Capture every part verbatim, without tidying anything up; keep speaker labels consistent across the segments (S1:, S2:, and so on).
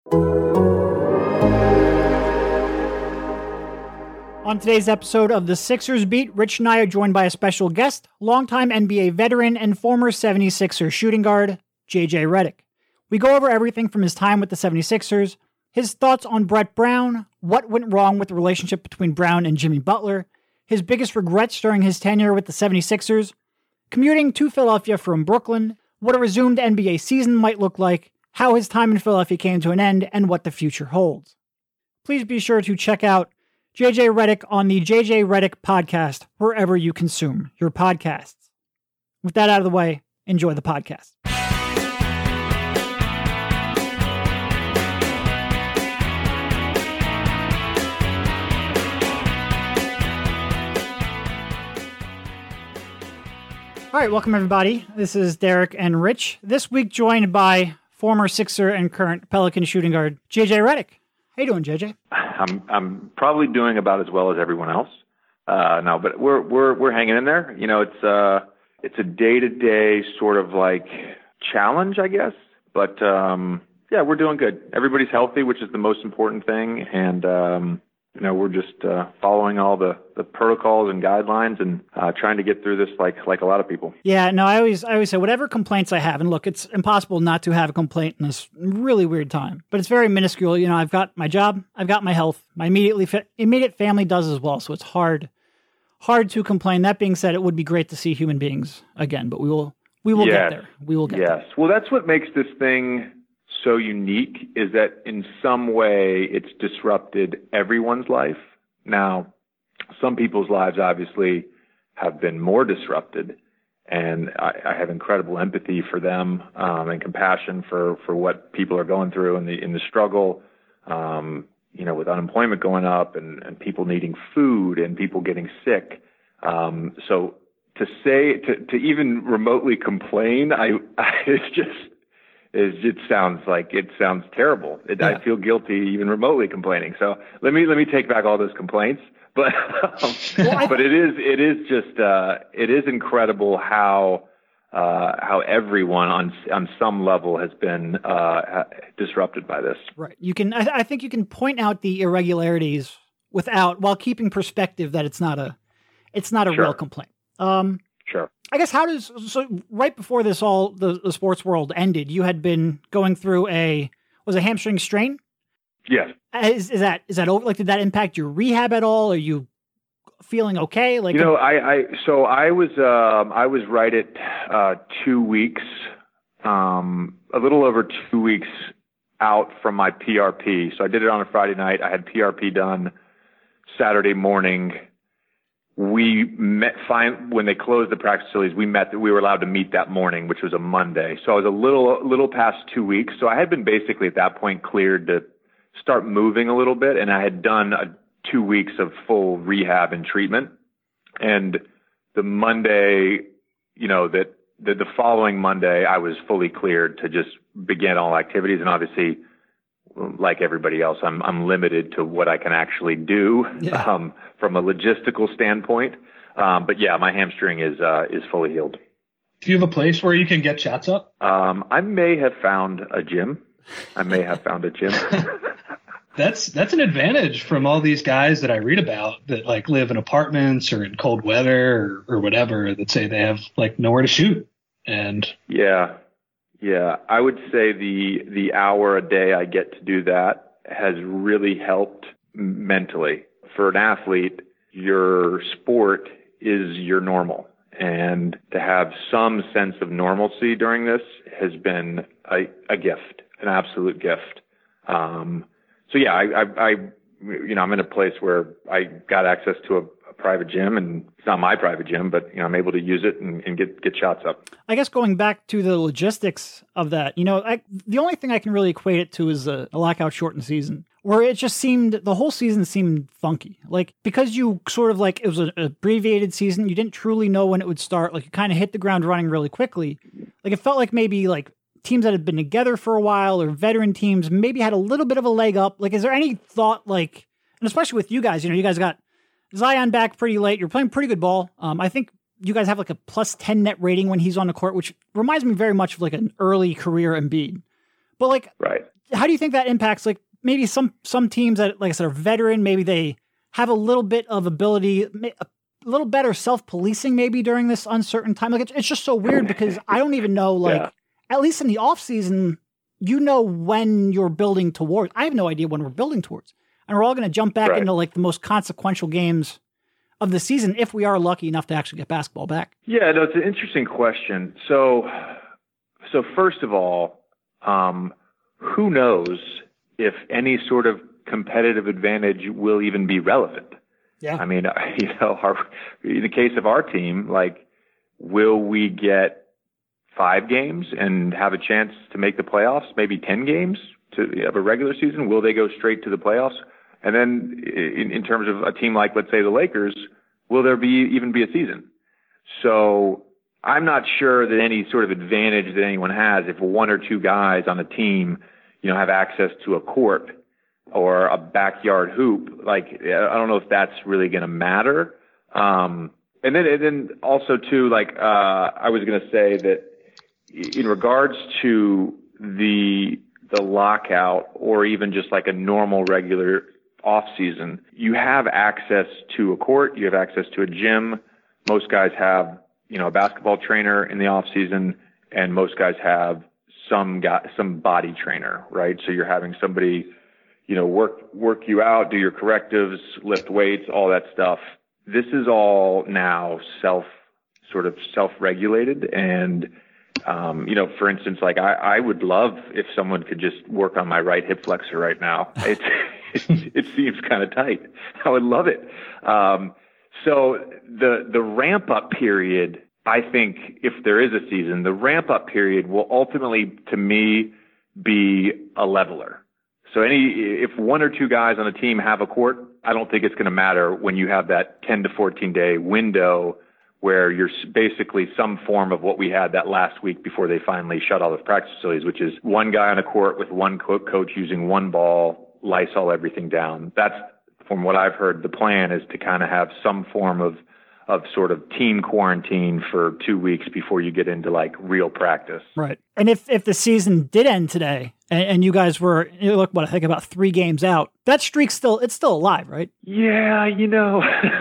S1: On today's episode of the Sixers Beat, Rich and I are joined by a special guest, longtime N B A veteran and former seventy-sixers shooting guard, J J Redick. We go over everything from his time with the seventy-sixers, his thoughts on Brett Brown, what went wrong with the relationship between Brown and Jimmy Butler, his biggest regrets during his tenure with the seventy-sixers, commuting to Philadelphia from Brooklyn, what a resumed N B A season might look like, how his time in Philadelphia came to an end, and what the future holds. Please be sure to check out J J Redick on the J J Redick podcast, wherever you consume your podcasts. With that out of the way, enjoy the podcast. All right, welcome everybody. This is Derek and Rich. This week joined by former Sixer and current Pelican shooting guard, J J Redick. How you doing, J J?
S2: I'm I'm probably doing about as well as everyone else. Uh, no, but we're we're we're hanging in there. You know, it's uh it's a day to day sort of like challenge, I guess. But um, yeah, we're doing good. Everybody's healthy, which is the most important thing, and um, you know, we're just uh, following all the, the protocols and guidelines and uh, trying to get through this like like a lot of people.
S1: Yeah, no, I always I always say whatever complaints I have, and look, it's impossible not to have a complaint in this really weird time, but it's very minuscule. You know, I've got my job, I've got my health, my immediately fa- immediate family does as well, so it's hard hard to complain. That being said, it would be great to see human beings again, but we will we will
S2: yes.
S1: get there. We will get
S2: yes.
S1: there.
S2: Yes. Well, that's what makes this thing so unique, is that in some way it's disrupted everyone's life. Now, some people's lives obviously have been more disrupted, and I, I have incredible empathy for them um, and compassion for, for what people are going through in the in the struggle. Um, you know, with unemployment going up and, and people needing food and people getting sick. Um, so to say to, to even remotely complain, I, I it's just. Is it sounds like it sounds terrible. It, yeah. I feel guilty even remotely complaining. So let me let me take back all those complaints. But um, but it is it is just uh, it is incredible how uh, how everyone on on some level has been uh, disrupted by this.
S1: Right. You can I, I think you can point out the irregularities without while keeping perspective that it's not a it's not a
S2: sure.
S1: real complaint. Um,
S2: Sure.
S1: I guess how does, so right before this all, the, the sports world ended, you had been going through a, was a hamstring strain?
S2: Yes.
S1: Is, is that, is that over, like, did that impact your rehab at all? Are you feeling okay? Like,
S2: you know, I, I, so I was, um, I was right at, uh, two weeks, um, a little over two weeks out from my P R P. So I did it on a Friday night. I had P R P done Saturday morning. We met fine when they closed the practice facilities. We met. We were allowed to meet that morning, which was a Monday. So I was a little, little past two weeks. So I had been basically at that point cleared to start moving a little bit, and I had done a, two weeks of full rehab and treatment. And the Monday, you know, that the, the following Monday, I was fully cleared to just begin all activities. And obviously, like everybody else, I'm I'm limited to what I can actually do yeah. um, from a logistical standpoint. Um, but yeah, my hamstring is uh, is fully healed.
S3: Do you have a place where you can get shots up?
S2: Um, I may have found a gym. I may have found a gym.
S3: That's that's an advantage from all these guys that I read about that like live in apartments or in cold weather or, or whatever that say they have like nowhere to shoot. And
S2: yeah. Yeah, I would say the the hour a day I get to do that has really helped mentally. For an athlete, your sport is your normal. And to have some sense of normalcy during this has been a, a gift, an absolute gift. Um, so yeah, I, I, I, you know, I'm in a place where I got access to a, a private gym, and it's not my private gym, but you know, I'm able to use it and, and get, get shots up.
S1: I guess going back to the logistics of that, you know, I, the only thing I can really equate it to is a, a lockout shortened season, where it just seemed, the whole season seemed funky. Like, because you sort of like, it was an abbreviated season, you didn't truly know when it would start. Like, you kind of hit the ground running really quickly. Like, it felt like maybe like teams that had been together for a while or veteran teams maybe had a little bit of a leg up. Like, is there any thought, like, and especially with you guys, you know, you guys got Zion back pretty late. You're playing pretty good ball. Um, I think you guys have like a plus ten net rating when he's on the court, which reminds me very much of like an early career Embiid. But like,
S2: right.
S1: how do you think that impacts, like maybe some, some teams that, like I said, are veteran, maybe they have a little bit of ability, a little better self-policing maybe during this uncertain time. Like it's, it's just so weird because I don't even know, like, yeah. at least in the off season, you know, when you're building towards, I have no idea when we're building towards, and we're all going to jump back right. into like the most consequential games of the season if we are lucky enough to actually get basketball back.
S2: Yeah, no, it's an interesting question. So, so first of all, um, who knows if any sort of competitive advantage will even be relevant?
S1: Yeah.
S2: I mean, you know, our, in the case of our team, like, will we get five games and have a chance to make the playoffs? Maybe ten games to have a regular season? Will they go straight to the playoffs? And then in, in terms of a team like, let's say, the Lakers, will there be even be a season? So I'm not sure that any sort of advantage that anyone has if one or two guys on a team, you know, have access to a court or a backyard hoop. Like, I don't know if that's really going to matter. Um, and then, and then also too, like, uh, I was going to say that in regards to the, the lockout or even just like a normal regular off season, you have access to a court, you have access to a gym. Most guys have, you know, a basketball trainer in the off season, and most guys have some guy, some body trainer, right? So you're having somebody, you know, work, work you out, do your correctives, lift weights, all that stuff. This is all now self, sort of self-regulated. And, um, you know, for instance, like I, I would love if someone could just work on my right hip flexor right now. It's, it, it seems kind of tight. I would love it. Um, so the, the ramp up period, I think if there is a season, the ramp up period will ultimately, to me, be a leveler. So any, if one or two guys on a team have a court, I don't think it's going to matter when you have that ten to fourteen day window where you're basically some form of what we had that last week before they finally shut all the practice facilities, which is one guy on a court with one co- coach using one ball, Lysol everything down. That's, from what I've heard, the plan is to kind of have some form of of sort of team quarantine for two weeks before you get into like real practice.
S1: Right. And if, if the season did end today and, and you guys were, you look, what, I think about three games out, that streak's still, it's still alive, right?
S2: Yeah. You know,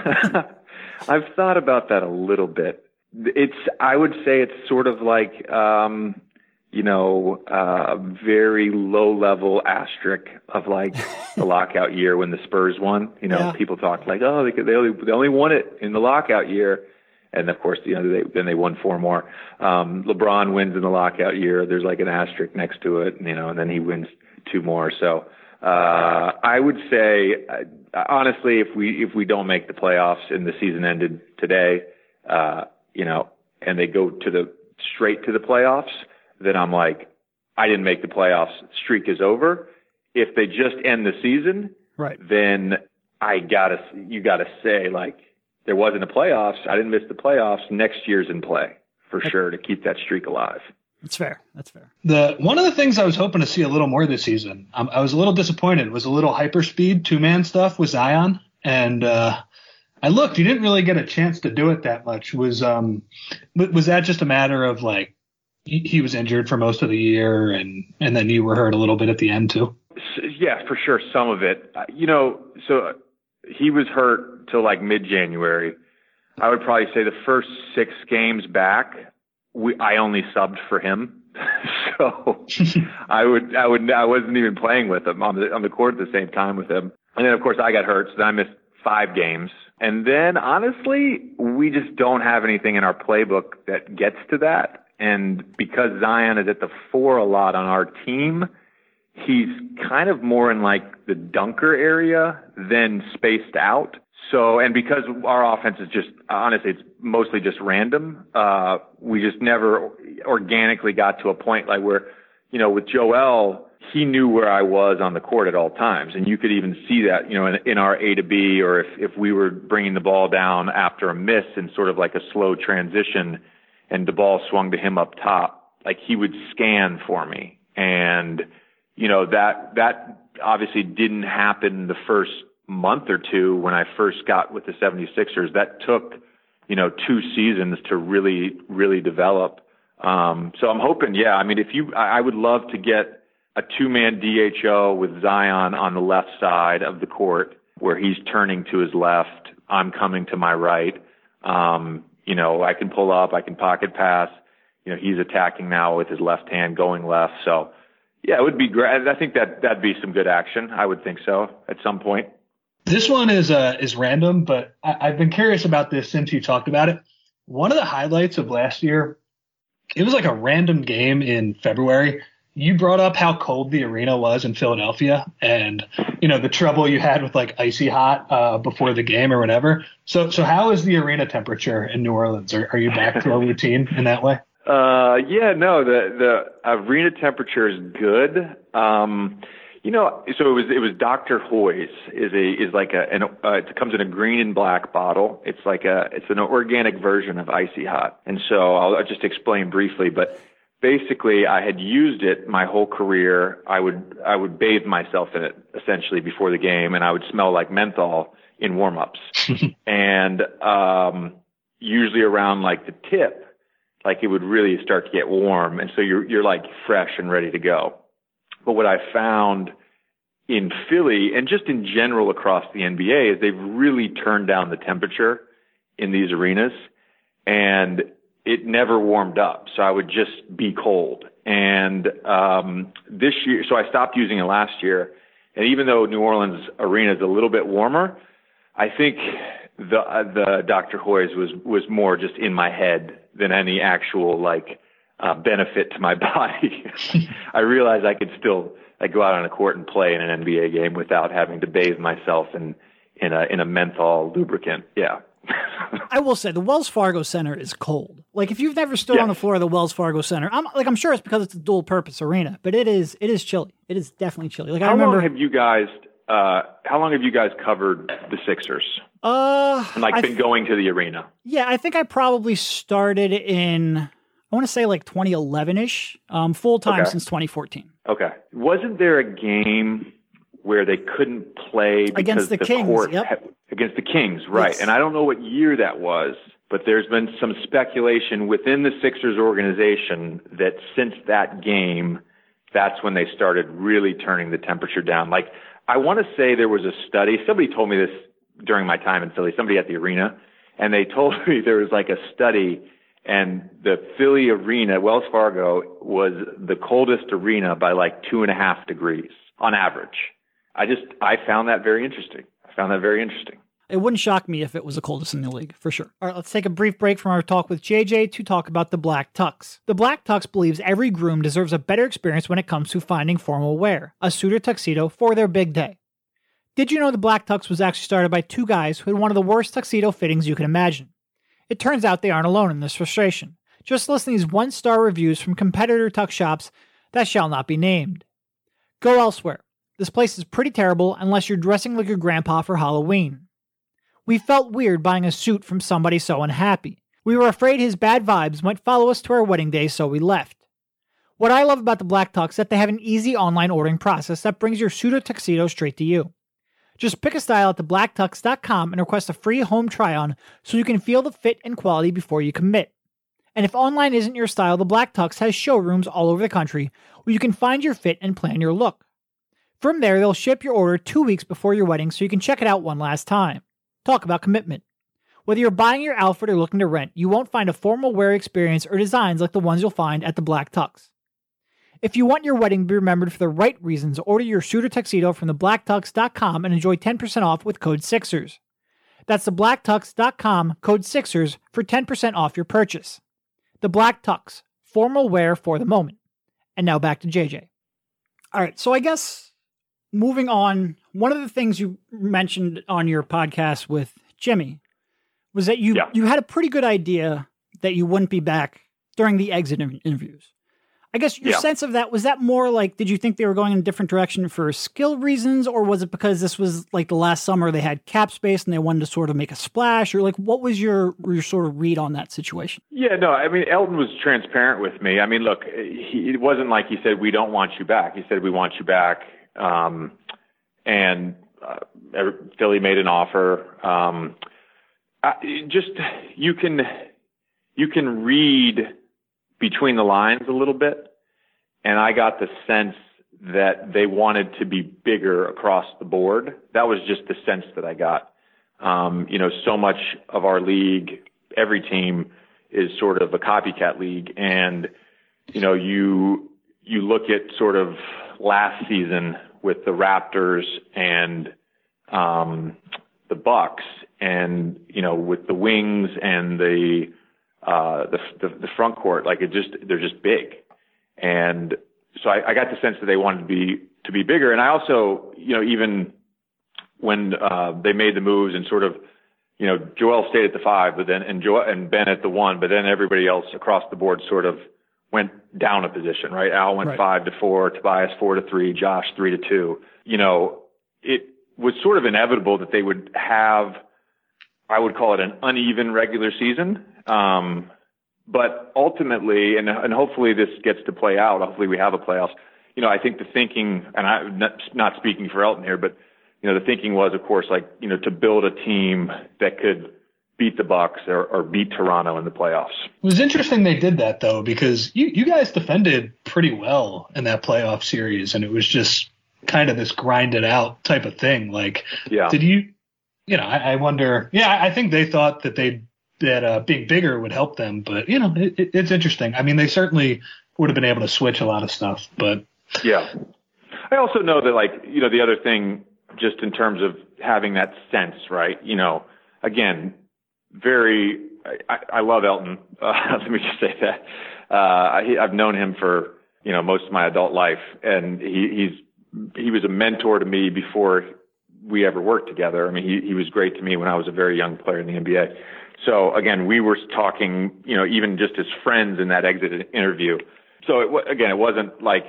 S2: I've thought about that a little bit. It's, I would say it's sort of like, um, you know, uh, very low level asterisk of like the lockout year when the Spurs won. You know, yeah. People talk like, oh, they, they only they only won it in the lockout year, and of course, you know, they, then they won four more. Um, LeBron wins in the lockout year. There's like an asterisk next to it, you know, and then he wins two more. So uh, I would say, uh, honestly, if we if we don't make the playoffs and the season ended today, uh, you know, and they go to the straight to the playoffs, then I'm like, I didn't make the playoffs. Streak is over. If they just end the season,
S1: right,
S2: then I gotta, you gotta say like, there wasn't a playoffs. I didn't miss the playoffs. Next year's in play for sure to keep that streak alive.
S1: That's fair. That's fair.
S3: The one of the things I was hoping to see a little more this season, um, I was a little disappointed, was a little hyperspeed two man stuff with Zion, and uh, I looked. You didn't really get a chance to do it that much. Was um, was that just a matter of like, he was injured for most of the year, and, and then you were hurt a little bit at the end too?
S2: Yeah, for sure. Some of it, you know, so he was hurt till like mid-January. I would probably say the first six games back, we, I only subbed for him. So I would, I would, I wasn't even playing with him on the, on the court at the same time with him. And then of course I got hurt. So then I missed five games. And then honestly, we just don't have anything in our playbook that gets to that. And because Zion is at the four a lot on our team, he's kind of more in like the dunker area than spaced out. So, and because our offense is just, honestly, it's mostly just random, uh, we just never organically got to a point like where, you know, with Joel, he knew where I was on the court at all times. And you could even see that, you know, in, in our A to B, or if, if we were bringing the ball down after a miss in sort of like a slow transition, and the ball swung to him up top, like he would scan for me. And, you know, that, that obviously didn't happen the first month or two when I first got with the seventy-sixers. That took, you know, two seasons to really, really develop. Um, so I'm hoping, yeah, I mean, if you, I would love to get a two-man D H O with Zion on the left side of the court where he's turning to his left. I'm coming to my right. Um, you know, I can pull up, I can pocket pass. You know, he's attacking now with his left hand going left. So, yeah, it would be great. I think that that'd be some good action. I would think so at some point.
S3: This one is uh, is random, but I, I've been curious about this since you talked about it. One of the highlights of last year, it was like a random game in February. You brought up how cold the arena was in Philadelphia and, you know, the trouble you had with like icy hot uh, before the game or whatever. So so how is the arena temperature in New Orleans? Are, are you back to a routine in that way?
S2: Uh, yeah, no, the, the arena temperature is good. Um, you know, so it was, it was Doctor Hoy's is a, is like a, an, uh, it comes in a green and black bottle. It's like a, it's an organic version of icy hot. And so I'll, I'll just explain briefly, but basically I had used it my whole career. I would, I would bathe myself in it essentially before the game, and I would smell like menthol in warm-ups. and, um, usually around like the tip, like it would really start to get warm. And so you're, you're like fresh and ready to go. But what I found in Philly and just in general across the N B A is they've really turned down the temperature in these arenas, and it never warmed up. So I would just be cold. And, um, this year, so I stopped using it last year. And even though New Orleans arena is a little bit warmer, I think the, uh, the Doctor Hoy's was, was more just in my head than any actual like, uh, benefit to my body. I realized I could still like go out on a court and play in an N B A game without having to bathe myself in, in a, in a menthol lubricant. Yeah.
S1: I will say the Wells Fargo Center is cold. Like if you've never stood
S2: yes.
S1: on the floor of the Wells Fargo Center, I'm like, I'm sure it's because it's a dual purpose arena, but it is, it is chilly. It is definitely chilly. Like
S2: how
S1: I remember,
S2: long have you guys, uh, how long have you guys covered the Sixers?
S1: Uh,
S2: and like
S1: I
S2: been
S1: th-
S2: going to the arena?
S1: Yeah, I think I probably started in, I want to say like twenty eleven ish, um, full time
S2: okay.
S1: since twenty fourteen.
S2: Okay. Wasn't there a game where they couldn't play because
S1: against the,
S2: the
S1: Kings?
S2: court
S1: Yep.
S2: had, against the Kings, right?
S1: Yes.
S2: And I don't know what year that was, but there's been some speculation within the Sixers organization that since that game, that's when they started really turning the temperature down. Like I want to say there was a study. Somebody told me this during my time in Philly, somebody at the arena, and they told me there was like a study, and the Philly arena, Wells Fargo, was the coldest arena by like two and a half degrees on average. I just, I found that very interesting. I found that very interesting.
S1: It wouldn't shock me if it was the coldest in the league, for sure. All right, let's take a brief break from our talk with J J to talk about the Black Tux. The Black Tux believes every groom deserves a better experience when it comes to finding formal wear, a suit or tuxedo for their big day. Did you know the Black Tux was actually started by two guys who had one of the worst tuxedo fittings you can imagine? It turns out they aren't alone in this frustration. Just listen to these one-star reviews from competitor tux shops that shall not be named. Go elsewhere. This place is pretty terrible unless you're dressing like your grandpa for Halloween. We felt weird buying a suit from somebody so unhappy. We were afraid his bad vibes might follow us to our wedding day, so we left. What I love about the Black Tux is that they have an easy online ordering process that brings your suit or tuxedo straight to you. Just pick a style at the black tux dot com and request a free home try-on so you can feel the fit and quality before you commit. And if online isn't your style, the Black Tux has showrooms all over the country where you can find your fit and plan your look. From there, they'll ship your order two weeks before your wedding so you can check it out one last time. Talk about commitment. Whether you're buying your outfit or looking to rent, you won't find a formal wear experience or designs like the ones you'll find at the Black Tux. If you want your wedding to be remembered for the right reasons, order your suit or tuxedo from the black tux dot com and enjoy ten percent off with code Sixers. That's the black tux dot com, code Sixers, for ten percent off your purchase. The Black Tux, formal wear for the moment. And now back to J J. All right, so I guess moving on, one of the things you mentioned on your podcast with Jimmy was that you,
S2: yeah.
S1: you had a pretty good idea that you wouldn't be back during the exit interviews. I guess your
S2: yeah.
S1: sense of that, was that more like, did you think they were going in a different direction for skill reasons, or was it because this was like the last summer they had cap space and they wanted to sort of make a splash, or like, what was your, your sort of read on that situation?
S2: Yeah, no, I mean, Elton was transparent with me. I mean, look, he, it wasn't like he said, we don't want you back. He said, we want you back. Um, and uh, Philly made an offer. Um, I, just, you can, you can read between the lines a little bit. And I got the sense that they wanted to be bigger across the board. That was just the sense that I got. Um, you know, so much of our league, every team is sort of a copycat league. And, you know, you, you look at sort of last season with the Raptors and, um, the Bucks and, you know, with the wings and the, uh, the, the, the front court, like it just, they're just big. And so I, I got the sense that they wanted to be, to be bigger. And I also, you know, even when, uh, they made the moves and sort of, you know, Joel stayed at the five, but then, and Joel and Ben at the one, but then everybody else across the board sort of went down a position, right? Al went right. five to four, Tobias four to three, Josh three to two. You know, it was sort of inevitable that they would have, I would call it an uneven regular season. Um, but ultimately, and, and hopefully this gets to play out, hopefully we have a playoffs. You know, I think the thinking, and I'm not, not speaking for Elton here, but you know, the thinking was, of course, like, you know, to build a team that could beat the Bucks or, or beat Toronto in the playoffs.
S3: It was interesting they did that, though, because you, you guys defended pretty well in that playoff series, and it was just kind of this grinded out type of thing. Like, yeah. did you, you know, I, I wonder, yeah, I think they thought that they that uh, being bigger would help them, but, you know, it, it, it's interesting. I mean, they certainly would have been able to switch a lot of stuff, but.
S2: Yeah. I also know that, like, you know, the other thing, just in terms of having that sense, right? You know, again, very, I, I love Elton. Uh, let me just say that. Uh, I, I've known him for, you know, most of my adult life, and he, he's, he was a mentor to me before we ever worked together. I mean, he, he was great to me when I was a very young player in the N B A. So again, we were talking, you know, even just as friends in that exit interview. So it, again, it wasn't like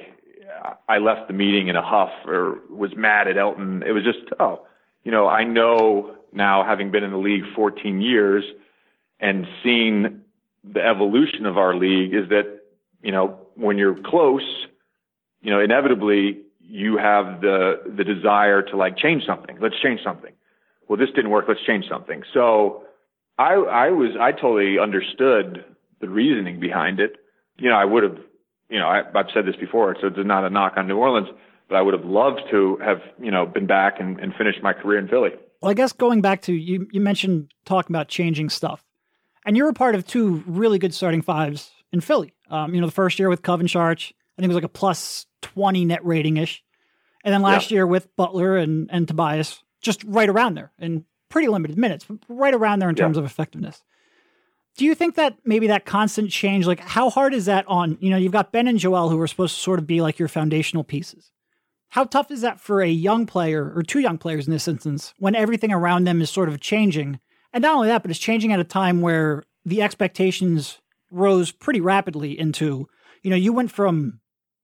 S2: I left the meeting in a huff or was mad at Elton. It was just, oh, you know, I know now, having been in the league fourteen years and seen the evolution of our league, is that, you know, when you're close, you know, inevitably you have the, the desire to like change something. Let's change something. Well, this didn't work. Let's change something. So I, I was, I totally understood the reasoning behind it. You know, I would have, you know, I, I've said this before, so it's not a knock on New Orleans, but I would have loved to have, you know, been back and, and finished my career in Philly.
S1: Well, I guess going back to, you, you mentioned talking about changing stuff, and you were part of two really good starting fives in Philly. Um, you know, the first year with Coven Sharch, I think it was like a plus twenty net rating-ish. And then last yeah. year with Butler and, and Tobias, just right around there in pretty limited minutes, but right around there in terms yeah. of effectiveness. Do you think that maybe that constant change, like how hard is that on, you know, you've got Ben and Joel who are supposed to sort of be like your foundational pieces. How tough is that for a young player, or two young players in this instance, when everything around them is sort of changing? And not only that, but it's changing at a time where the expectations rose pretty rapidly into, you know, you went from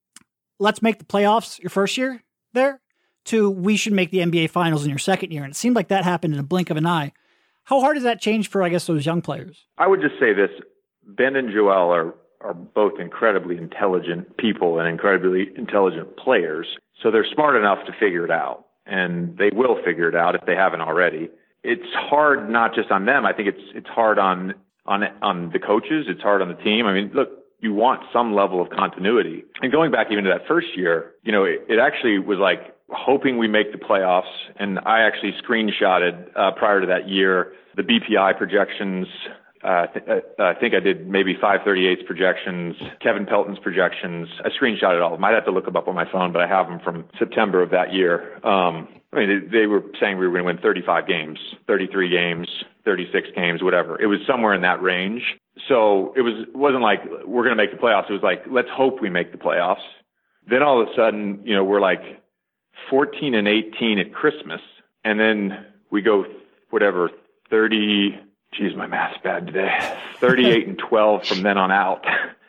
S1: let's make the playoffs your first year there to we should make the N B A finals in your second year. And it seemed like that happened in a blink of an eye. How hard does that change for, I guess, those young players?
S2: I would just say this. Ben and Joel are, are both incredibly intelligent people and incredibly intelligent players. So they're smart enough to figure it out, and they will figure it out if they haven't already. It's hard not just on them. I think it's it's hard on on on the coaches. It's hard on the team. I mean, look, you want some level of continuity. And going back even to that first year, you know, it, it actually was like hoping we make the playoffs. And I actually screenshotted uh, prior to that year the B P I projections. Uh, th- uh, I think I did maybe five thirty-eights projections, Kevin Pelton's projections. I screenshotted all of them. I'd have to look them up on my phone, but I have them from September of that year. Um, I mean, they, they were saying we were going to win thirty-five games, thirty-three games, thirty-six games, whatever. It was somewhere in that range. So it was, it wasn't like we're going to make the playoffs. It was like, let's hope we make the playoffs. Then all of a sudden, you know, we're like fourteen and eighteen at Christmas. And then we go, whatever, thirty, geez, my math's bad today, thirty-eight and twelve from then on out.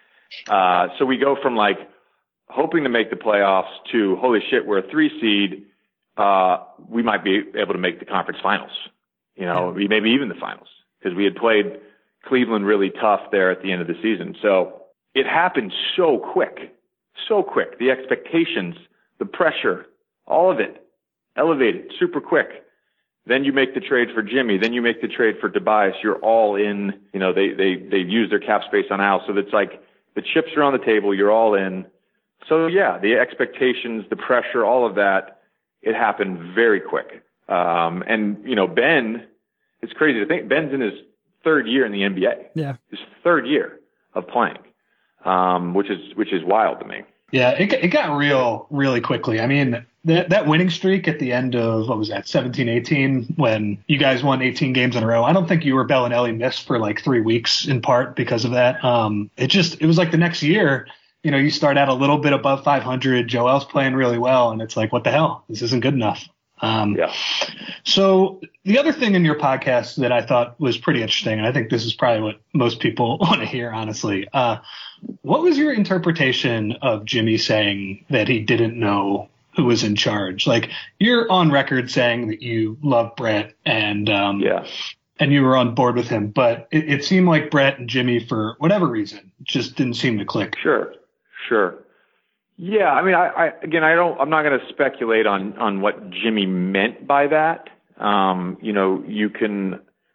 S2: Uh, so we go from like hoping to make the playoffs to, holy shit, we're a three seed. Uh, we might be able to make the conference finals, you know, yeah. maybe even the finals, because we had played Cleveland really tough there at the end of the season. So it happened so quick, so quick. The expectations, the pressure, all of it elevated super quick. Then you make the trade for Jimmy. Then you make the trade for Tobias. You're all in. You know, they, they, they've used their cap space on Al. So it's like the chips are on the table. You're all in. so yeah, the expectations, the pressure, all of that, it happened very quick. Um, and, you know, Ben, it's crazy to think Ben's in his third year in the N B A.
S1: Yeah.
S2: His third year of playing, um, which is, which is wild to me.
S3: Yeah. It, it got real, really quickly. I mean, that, that winning streak at the end of, what was that, seventeen eighteen, when you guys won eighteen games in a row. I don't think you were Bellinelli missed for like three weeks in part because of that. Um, it just, it was like the next year, you know, you start out a little bit above five hundred. Joel's playing really well. And it's like, what the hell? This isn't good enough. Um,
S2: yeah.
S3: So the other thing in your podcast that I thought was pretty interesting, and I think this is probably what most people want to hear, honestly. Uh, what was your interpretation of Jimmy saying that he didn't know who was in charge? Like, you're on record saying that you love Brett and, um,
S2: yeah.
S3: and you were on board with him, but it, it seemed like Brett and Jimmy, for whatever reason, just didn't seem to click.
S2: Sure. Sure. Yeah. I mean, I, I again, I don't, I'm not going to speculate on, on what Jimmy meant by that. Um, you know, you can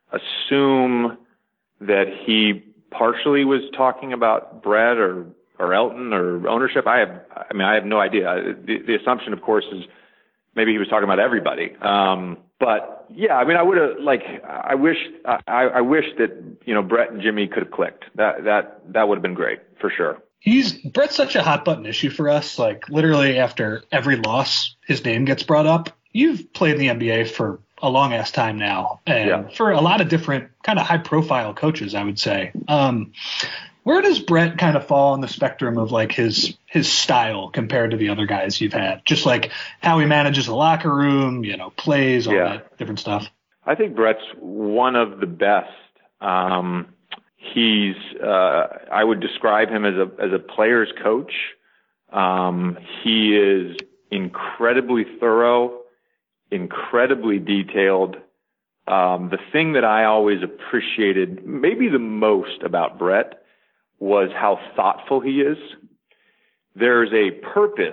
S2: assume that he partially was talking about Brett or, or Elton or ownership. I have, I mean, I have no idea. The, the assumption, of course, is maybe he was talking about everybody. Um, but yeah, I mean, I would have like, I wish, I, I wish that, you know, Brett and Jimmy could have clicked. That, that, that would have been great for sure.
S3: He's Brett's such a hot button issue for us. Like, literally after every loss, his name gets brought up. You've played in the N B A for a long ass time now, and
S2: yeah.
S3: for a lot of different kind of high profile coaches, I would say. Um, where does Brett kind of fall on the spectrum of like his his style compared to the other guys you've had? Just like how he manages the locker room, you know, plays, all
S2: yeah.
S3: that different stuff.
S2: I think Brett's one of the best. Um, He's, uh, I would describe him as a, as a player's coach. Um, he is incredibly thorough, incredibly detailed. Um, the thing that I always appreciated maybe the most about Brett was how thoughtful he is. There's a purpose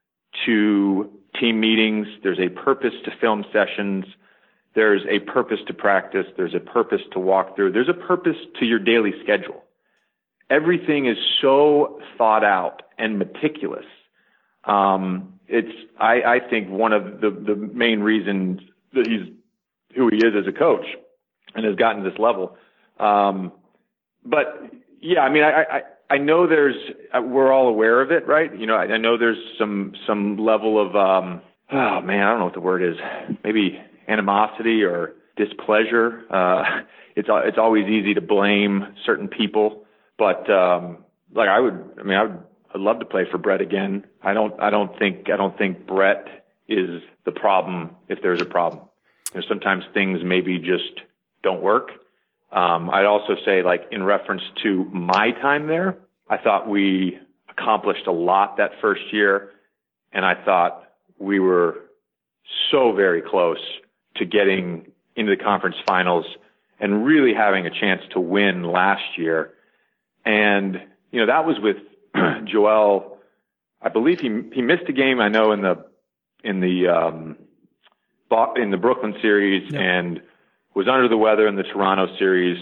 S2: to team meetings. There's a purpose to film sessions. There's a purpose to practice. There's a purpose to walk through. There's a purpose to your daily schedule. Everything is so thought out and meticulous. Um, it's, I, I think, one of the, the main reasons that he's who he is as a coach and has gotten to this level. Um, but yeah, I mean, I, I, I know there's, we're all aware of it, right? You know, I, I know there's some, some level of, um, oh man, I don't know what the word is. Maybe animosity or displeasure. Uh, it's, it's always easy to blame certain people, but, um, like I would, I mean, I would, I'd love to play for Brett again. I don't, I don't think, I don't think Brett is the problem if there's a problem. You know, sometimes things maybe just don't work. Um, I'd also say, like, in reference to my time there, I thought we accomplished a lot that first year, and I thought we were so very close to getting into the conference finals and really having a chance to win last year. And, you know, that was with Joel. I believe he he missed a game, I know, in the in the um, in the Brooklyn series, yeah. and was under the weather in the Toronto series.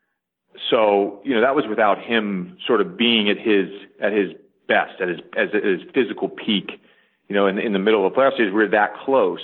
S2: So, you know, that was without him sort of being at his at his best, at his at his physical peak. You know, in in the middle of the playoff series, we're that close.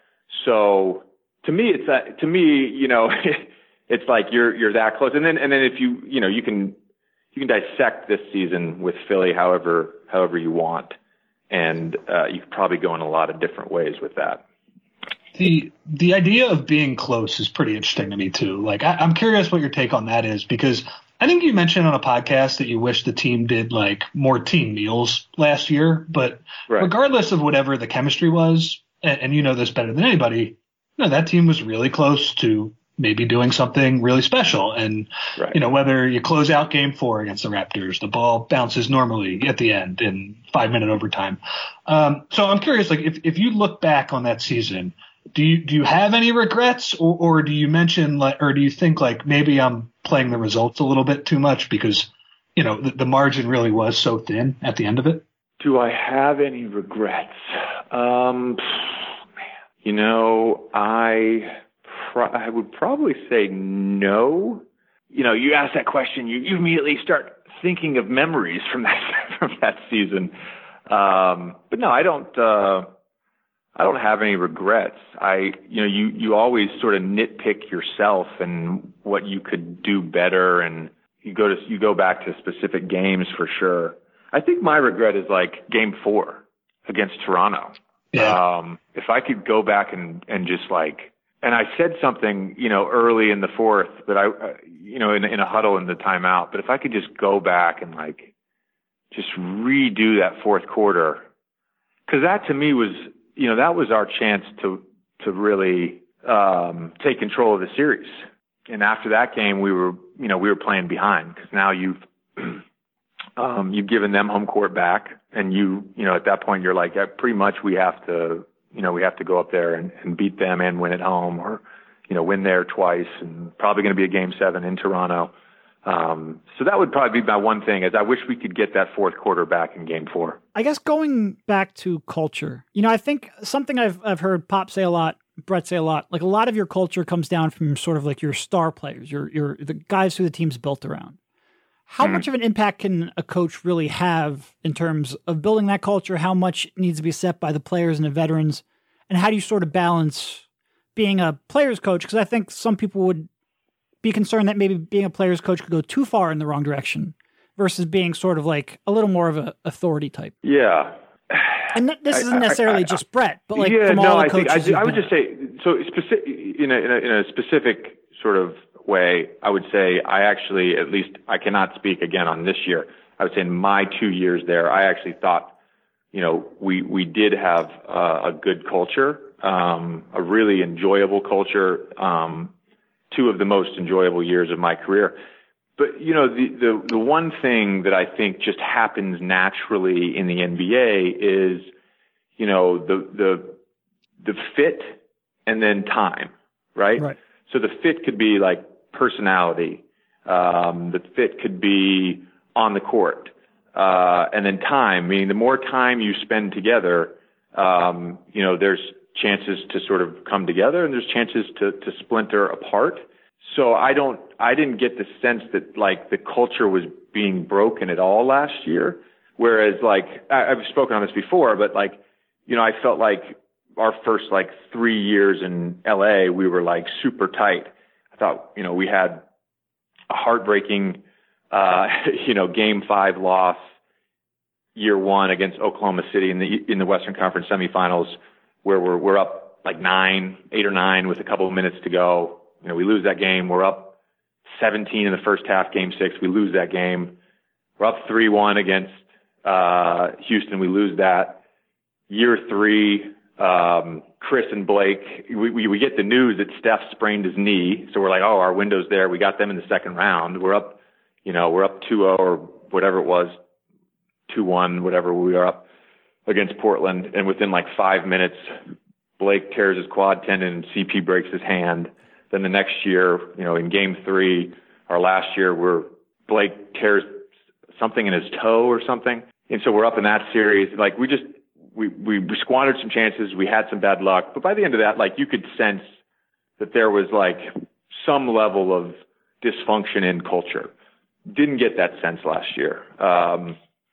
S2: So to me, it's that, to me, you know, it's like you're you're that close. And then and then if you you know you can you can dissect this season with Philly however however you want, and uh, you could probably go in a lot of different ways with that.
S3: The the idea of being close is pretty interesting to me too. Like I, I'm curious what your take on that is, because I think you mentioned on a podcast that you wish the team did like more team meals last year, but right. regardless of whatever the chemistry was, and, and you know this better than anybody, you know, that team was really close to maybe doing something really special. And, right. you know, whether you close out game four against the Raptors, the ball bounces normally at the end in five minute overtime. Um, so I'm curious, like if, if you look back on that season, do you, do you have any regrets, or, or do you mention like, or do you think like maybe I'm playing the results a little bit too much because, you know, the, the margin really was so thin at the end of it?
S2: Do I have any regrets? Um, you know, I, pro- I would probably say no. You know, you ask that question, you, you immediately start thinking of memories from that, from that season. Um, but no, I don't, uh, I don't have any regrets. I, you know, you, you always sort of nitpick yourself and what you could do better. And you go to, you go back to specific games for sure. I think my regret is like game four against Toronto.
S3: Yeah.
S2: Um, if I could go back and, and just like, and I said something, you know, early in the fourth, but I, uh, you know, in, in a huddle in the timeout, but if I could just go back and like, just redo that fourth quarter, cause that to me was, you know, that was our chance to, to really, um, take control of the series. And after that game, we were, you know, we were playing behind because now you've, um, you've given them home court back and you, you know, at that point you're like, yeah, pretty much we have to, you know, we have to go up there and, and beat them and win at home or, you know, win there twice and probably going to be a game seven in Toronto. Um, so that would probably be my one thing is I wish we could get that fourth quarter back in game four.
S1: I guess going back to culture, you know, I think something I've, I've heard Pop say a lot, Brett say a lot, like a lot of your culture comes down from sort of like your star players, your, your, the guys who the team's built around. How mm. much of an impact can a coach really have in terms of building that culture? How much needs to be set by the players and the veterans? And how do you sort of balance being a player's coach? Because I think some people would be concerned that maybe being a player's coach could go too far in the wrong direction versus being sort of like a little more of an authority type.
S2: Yeah.
S1: And th- this
S2: I,
S1: isn't necessarily
S2: I, I,
S1: just Brett, but like
S2: yeah,
S1: from
S2: no,
S1: all the
S2: I
S1: coaches.
S2: think, I, I would
S1: been
S2: just say, so specific, in a, in a, in a specific sort of way, I would say I actually, at least I cannot speak again on this year. I would say in my two years there, I actually thought, you know, we, we did have uh, a good culture, um, a really enjoyable culture, um, two of the most enjoyable years of my career. But, you know, the, the, the one thing that I think just happens naturally in the N B A is, you know, the, the, the fit and then time, right?
S1: Right.
S2: So the fit could be like personality. Um, the fit could be on the court. Uh, and then time, meaning the more time you spend together, um, you know, there's chances to sort of come together and there's chances to, to splinter apart. So I don't, I didn't get the sense that like the culture was being broken at all last year. Whereas like, I, I've spoken on this before, but like, you know, I felt like our first like three years in L A, we were like super tight. I thought, you know, we had a heartbreaking, uh, you know, game five loss year one against Oklahoma City in the, in the Western Conference semifinals where we're, we're up like nine, eight or nine with a couple of minutes to go. You know, we lose that game. We're up seventeen in the first half, game six. We lose that game. We're up three one against, uh, Houston. We lose that. Year three, um, Chris and Blake, we, we, we get the news that Steph sprained his knee. So we're like, oh, our window's there. We got them in the second round. We're up, you know, we're up two oh or whatever it was, two one, whatever we are up against Portland. And within like five minutes, Blake tears his quad tendon and C P breaks his hand. Then the next year, you know, in game three, our last year, where Blake tears something in his toe or something. And so we're up in that series. Like we just, we, we squandered some chances. We had some bad luck. But by the end of that, like you could sense that there was like some level of dysfunction in culture. Didn't get that sense last year. Um,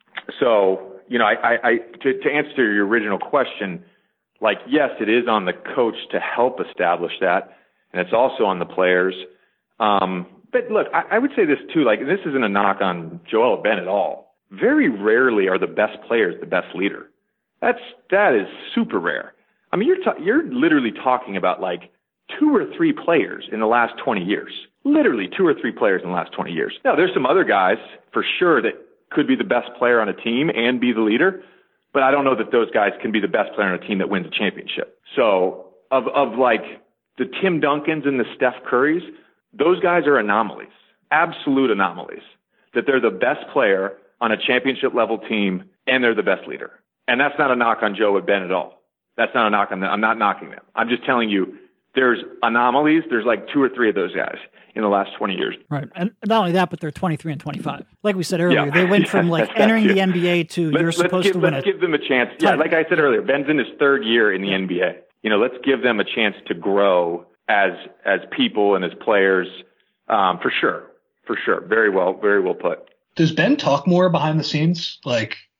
S2: so, you know, I, I, I to, to answer your original question, like, yes, it is on the coach to help establish that. And it's also on the players. Um, but look, I, I would say this too, like, this isn't a knock on Joel Ben at all. Very rarely are the best players the best leader. That's, that is super rare. I mean, you're, ta- you're literally talking about like two or three players in the last twenty years, literally two or three players in the last twenty years. Now there's some other guys for sure that could be the best player on a team and be the leader, but I don't know that those guys can be the best player on a team that wins a championship. So of, of like, the Tim Duncans and the Steph Currys, those guys are anomalies, absolute anomalies, that they're the best player on a championship level team and they're the best leader. And that's not a knock on Joe and Ben at all. That's not a knock on them. I'm not knocking them. I'm just telling you there's anomalies. There's like two or three of those guys in the last twenty years.
S1: Right. And not only that, but they're twenty-three and twenty-five. Like we said earlier, yeah. they went
S2: yeah,
S1: from like entering
S2: true.
S1: the N B A to
S2: let's,
S1: you're supposed
S2: give,
S1: to win
S2: let's
S1: it.
S2: Let's give them a chance. Yeah, like I said earlier, Ben's in his third year in the N B A. You know, let's give them a chance to grow as as people and as players, um, for sure, for sure. Very well, very well put.
S3: Does Ben talk more behind the scenes? Like,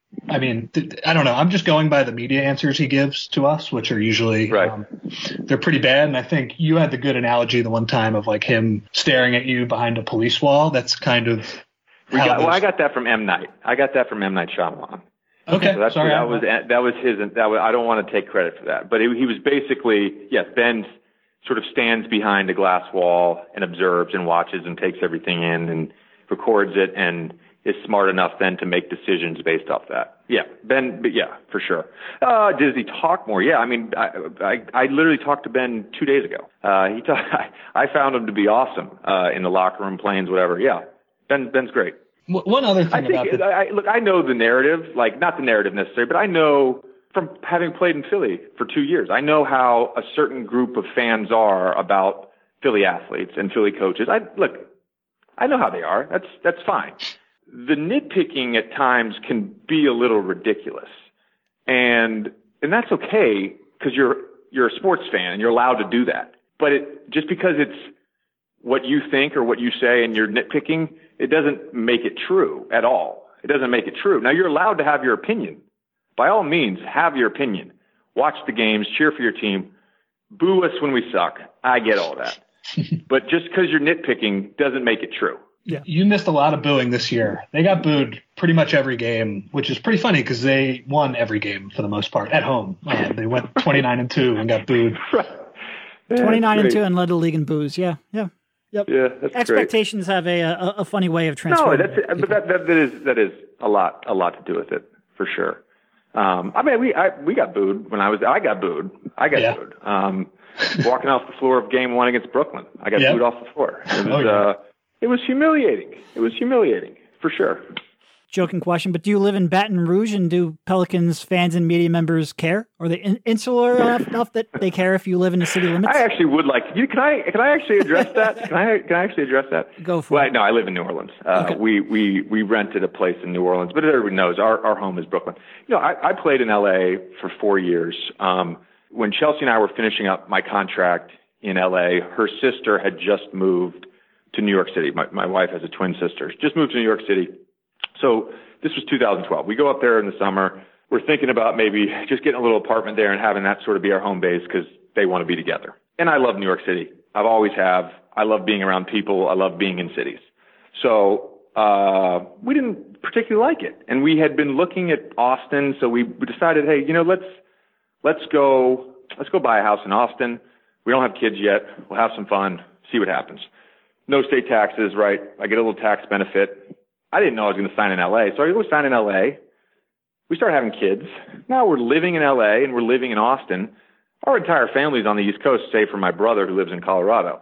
S3: I mean, th- I don't know. I'm just going by the media answers he gives to us, which are usually,
S2: right.
S3: um, they're pretty bad. And I think you had the good analogy the one time of like him staring at you behind a police wall. That's kind of.
S2: We got, well, I got that from M. Night. I got that from M. Night Shyamalan.
S3: Okay,
S2: so that's,
S3: sorry.
S2: That was that was his. That was, I don't want to take credit for that, but he, he was basically yes. Ben sort of stands behind a glass wall and observes and watches and takes everything in and records it and is smart enough then to make decisions based off that. Yeah, Ben. But yeah, for sure. Uh, does he talk more? Yeah, I mean, I I, I literally talked to Ben two days ago. Uh, he talk, I, I found him to be awesome uh, in the locker room, planes, whatever. Yeah, Ben Ben's great.
S3: One other thing
S2: I think,
S3: about the-
S2: I, look, I know the narrative, like not the narrative necessarily, but I know from having played in Philly for two years, I know how a certain group of fans are about Philly athletes and Philly coaches. I look, I know how they are. That's that's fine. The nitpicking at times can be a little ridiculous, and and that's okay because you're you're a sports fan and you're allowed to do that. But it just because it's what you think or what you say and you're nitpicking, it doesn't make it true at all. It doesn't make it true. Now, you're allowed to have your opinion. By all means, have your opinion. Watch the games, cheer for your team, boo us when we suck. I get all that. But just because you're nitpicking doesn't make it true.
S3: Yeah. You missed a lot of booing this year. They got booed pretty much every game, which is pretty funny because they won every game for the most part at home. Uh, they went twenty-nine and two and got booed.
S2: Right. Yeah,
S1: twenty-nine and two and led the league in boos. Yeah, yeah. Yep.
S2: Yeah, that's
S1: Expectations
S2: great.
S1: have a, a a funny way of transferring.
S2: No, that's but that, that that is that is a lot a lot to do with it for sure. Um, I mean, we I, we got booed when I was I got booed. I got
S3: yeah.
S2: booed. Um, walking off the floor of game one against Brooklyn, I got yep. booed off the floor. It was
S3: oh, yeah. uh,
S2: it was humiliating. It was humiliating for sure.
S1: Joking question, but do you live in Baton Rouge and do Pelicans fans and media members care? Are they in- insular enough, enough that they care if you live in the city limits?
S2: I actually would like you. Can I? Can I actually address that? Can I? Can I actually address that?
S1: Go for
S2: well,
S1: it.
S2: No, I live in New Orleans. Uh,
S1: okay.
S2: We we we rented a place in New Orleans, but everybody knows our our home is Brooklyn. You know, I, I played in L A for four years. Um, when Chelsea and I were finishing up my contract in L A, her sister had just moved to New York City. My my wife has a twin sister. Just moved to New York City, so. This was two thousand twelve. We go up there in the summer. We're thinking about maybe just getting a little apartment there and having that sort of be our home base because they want to be together. And I love New York City. I've always have. I love being around people. I love being in cities. So uh, we didn't particularly like it. And we had been looking at Austin. So we decided, hey, you know, let's let's go let's go buy a house in Austin. We don't have kids yet. We'll have some fun. See what happens. No state taxes, right? I get a little tax benefit. I didn't know I was going to sign in L A, so I go sign in L A. We start having kids. Now we're living in L A and we're living in Austin. Our entire family's on the East Coast, save for my brother who lives in Colorado.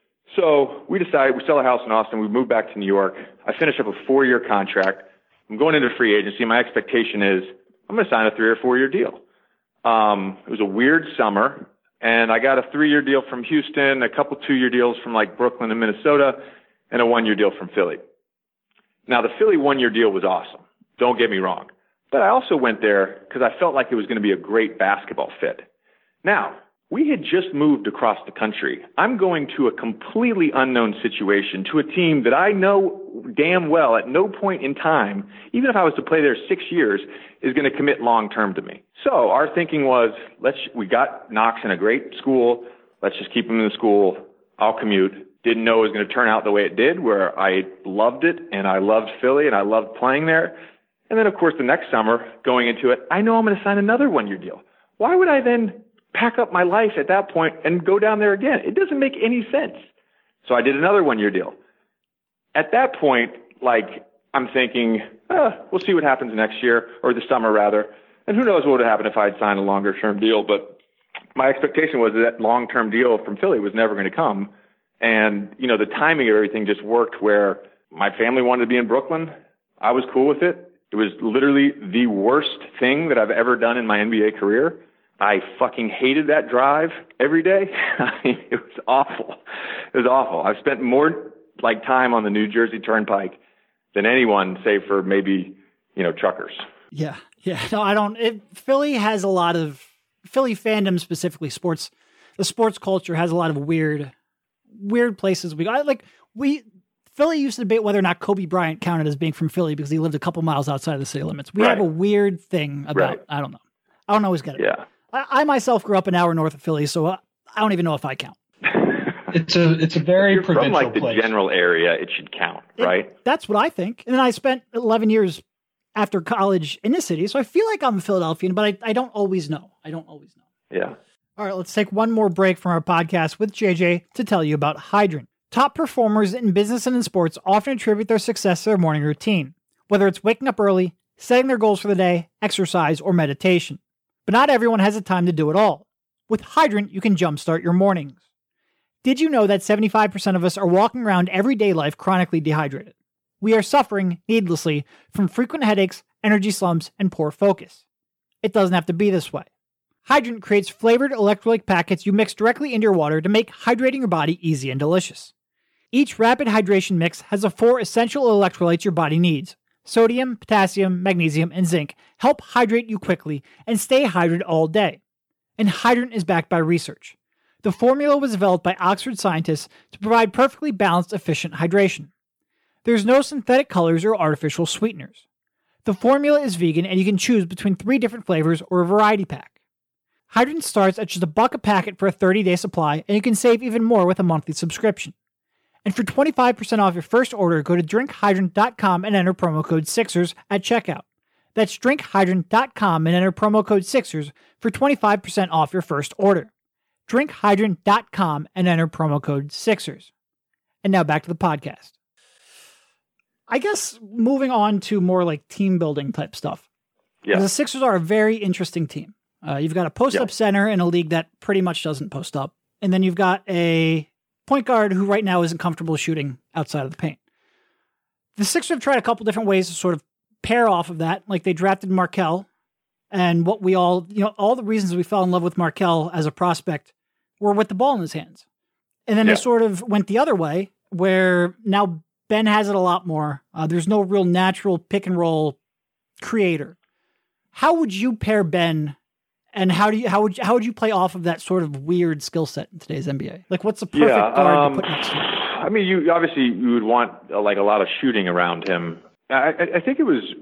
S2: So we decide we sell a house in Austin. We move back to New York. I finish up a four-year contract. I'm going into free agency. My expectation is I'm going to sign a three or four-year deal. Um, it was a weird summer, and I got a three-year deal from Houston, a couple two-year deals from like Brooklyn and Minnesota, and a one-year deal from Philly. Now, the Philly one-year deal was awesome. Don't get me wrong. But I also went there because I felt like it was going to be a great basketball fit. Now, we had just moved across the country. I'm going to a completely unknown situation, to a team that I know damn well at no point in time, even if I was to play there six years, is going to commit long-term to me. So our thinking was, let's we got Knox in a great school. Let's just keep him in the school. I'll commute. Didn't know it was going to turn out the way it did, where I loved it, and I loved Philly, and I loved playing there. And then, of course, the next summer, going into it, I know I'm going to sign another one-year deal. Why would I then pack up my life at that point and go down there again? It doesn't make any sense. So I did another one-year deal. At that point, like, I'm thinking, oh, we'll see what happens next year, or the summer, rather. And who knows what would have happened if I had signed a longer-term deal. But my expectation was that long-term deal from Philly was never going to come. And, you know, the timing of everything just worked where my family wanted to be in Brooklyn. I was cool with it. It was literally the worst thing that I've ever done in my N B A career. I fucking hated that drive every day. I mean, it was awful. It was awful. I've spent more like time on the New Jersey Turnpike than anyone, save for maybe, you know, truckers.
S1: Yeah. Yeah. No, I don't. It, Philly has a lot of Philly fandom, specifically sports. The sports culture has a lot of weird, weird places we go. I, like we Philly used to debate whether or not Kobe Bryant counted as being from Philly because he lived a couple miles outside of the city limits. We
S2: right.
S1: have a weird thing about,
S2: right.
S1: I don't know. I don't always get it.
S2: Yeah.
S1: I, I myself grew up an hour north of Philly, so I, I don't even know if I count.
S3: It's a it's a very
S2: if you're
S3: provincial
S2: from like the
S3: place.
S2: general area, it should count,
S1: It,
S2: right?
S1: That's what I think. And then I spent eleven years after college in the city, so I feel like I'm a Philadelphian, but I, I don't always know. I don't always know.
S2: Yeah.
S1: All right, let's take one more break from our podcast with J J to tell you about Hydrant. Top performers in business and in sports often attribute their success to their morning routine, whether it's waking up early, setting their goals for the day, exercise, or meditation. But not everyone has the time to do it all. With Hydrant, you can jumpstart your mornings. Did you know that seventy-five percent of us are walking around everyday life chronically dehydrated? We are suffering, needlessly, from frequent headaches, energy slumps, and poor focus. It doesn't have to be this way. Hydrant creates flavored electrolyte packets you mix directly into your water to make hydrating your body easy and delicious. Each rapid hydration mix has the four essential electrolytes your body needs. Sodium, potassium, magnesium, and zinc help hydrate you quickly and stay hydrated all day. And Hydrant is backed by research. The formula was developed by Oxford scientists to provide perfectly balanced, efficient hydration. There's no synthetic colors or artificial sweeteners. The formula is vegan and you can choose between three different flavors or a variety pack. Hydrant starts at just a buck a packet for a thirty-day supply, and you can save even more with a monthly subscription. And for twenty-five percent off your first order, go to drink hydrant dot com and enter promo code Sixers at checkout. That's drink hydrant dot com and enter promo code Sixers for twenty-five percent off your first order. drink hydrant dot com and enter promo code Sixers. And now back to the podcast. I guess moving on to more like team building type stuff.
S2: Yeah.
S1: The Sixers are a very interesting team. Uh, you've got a post-up
S2: yeah.
S1: center in a league that pretty much doesn't post up. And then you've got a point guard who right now isn't comfortable shooting outside of the paint. The Sixers have tried a couple different ways to sort of pair off of that. Like they drafted Markelle, and what we all, you know, all the reasons we fell in love with Markelle as a prospect were with the ball in his hands. And then
S2: yeah.
S1: they sort of went the other way, where now Ben has it a lot more. Uh, there's no real natural pick and roll creator. How would you pair Ben, and how do you how would you, how would you play off of that sort of weird skill set in today's N B A? Like, what's the perfect
S2: yeah,
S1: guard
S2: um,
S1: to put next to him?
S2: I mean, you obviously you would want uh, like a lot of shooting around him. I, I think it was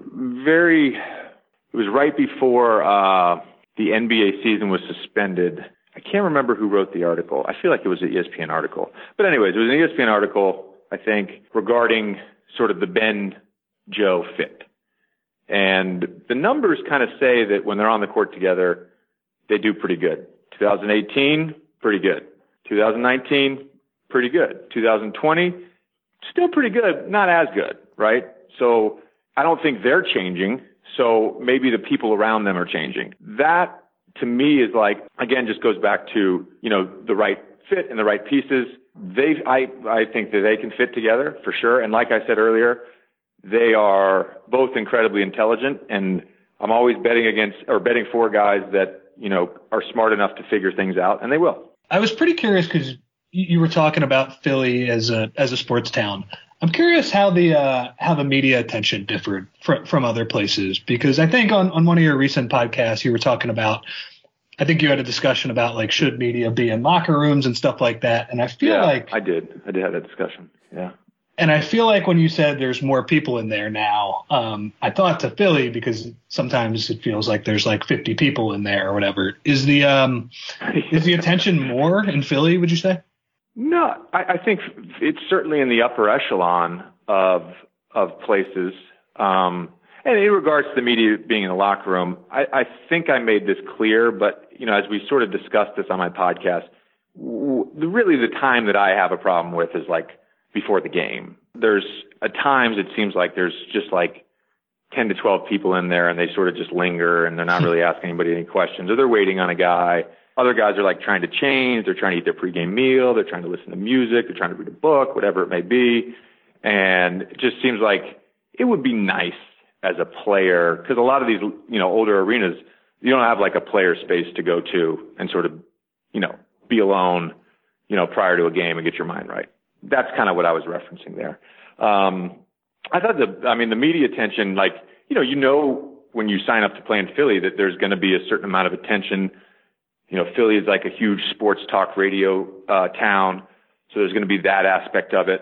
S2: very. It was right before uh, the N B A season was suspended. I can't remember who wrote the article. I feel like it was an E S P N article. But anyways, it was an E S P N article, I think, regarding sort of the Ben-Joe fit. And the numbers kind of say that when they're on the court together, they do pretty good. twenty eighteen, pretty good. twenty nineteen, pretty good. twenty twenty, still pretty good, not as good, right? So I don't think they're changing. So maybe the people around them are changing. That, to me, is like, again, just goes back to, you know, the right fit and the right pieces. They, I, I think that they can fit together for sure. And like I said earlier, they are both incredibly intelligent, and I'm always betting against or betting for guys that, you know, are smart enough to figure things out, and they will.
S3: I was pretty curious because you were talking about Philly as a as a sports town. I'm curious how the uh, how the media attention differed fr- from other places, because I think on, on one of your recent podcasts you were talking about, I think you had a discussion about like should media be in locker rooms and stuff like that, and I feel
S2: yeah,
S3: like
S2: I did I did have that discussion. Yeah.
S3: And I feel like when you said there's more people in there now, um, I thought to Philly because sometimes it feels like there's like fifty people in there or whatever. Is the um, is the attention more in Philly, would you say?
S2: No, I, I think it's certainly in the upper echelon of of places. Um, and in regards to the media being in the locker room, I, I think I made this clear. But you know, as we sort of discussed this on my podcast, w- really the time that I have a problem with is like before the game. There's at times it seems like there's just like ten to twelve people in there and they sort of just linger and they're not really asking anybody any questions, or they're waiting on a guy. Other guys are like trying to change. They're trying to eat their pregame meal. They're trying to listen to music. They're trying to read a book, whatever it may be. And it just seems like it would be nice as a player, because a lot of these, you know, older arenas, you don't have like a player space to go to and sort of, you know, be alone, you know, prior to a game and get your mind right. That's kind of what I was referencing there. Um, I thought the, I mean, the media attention, like, you know, you know, when you sign up to play in Philly that there's going to be a certain amount of attention. You know, Philly is like a huge sports talk radio uh, town. So there's going to be that aspect of it.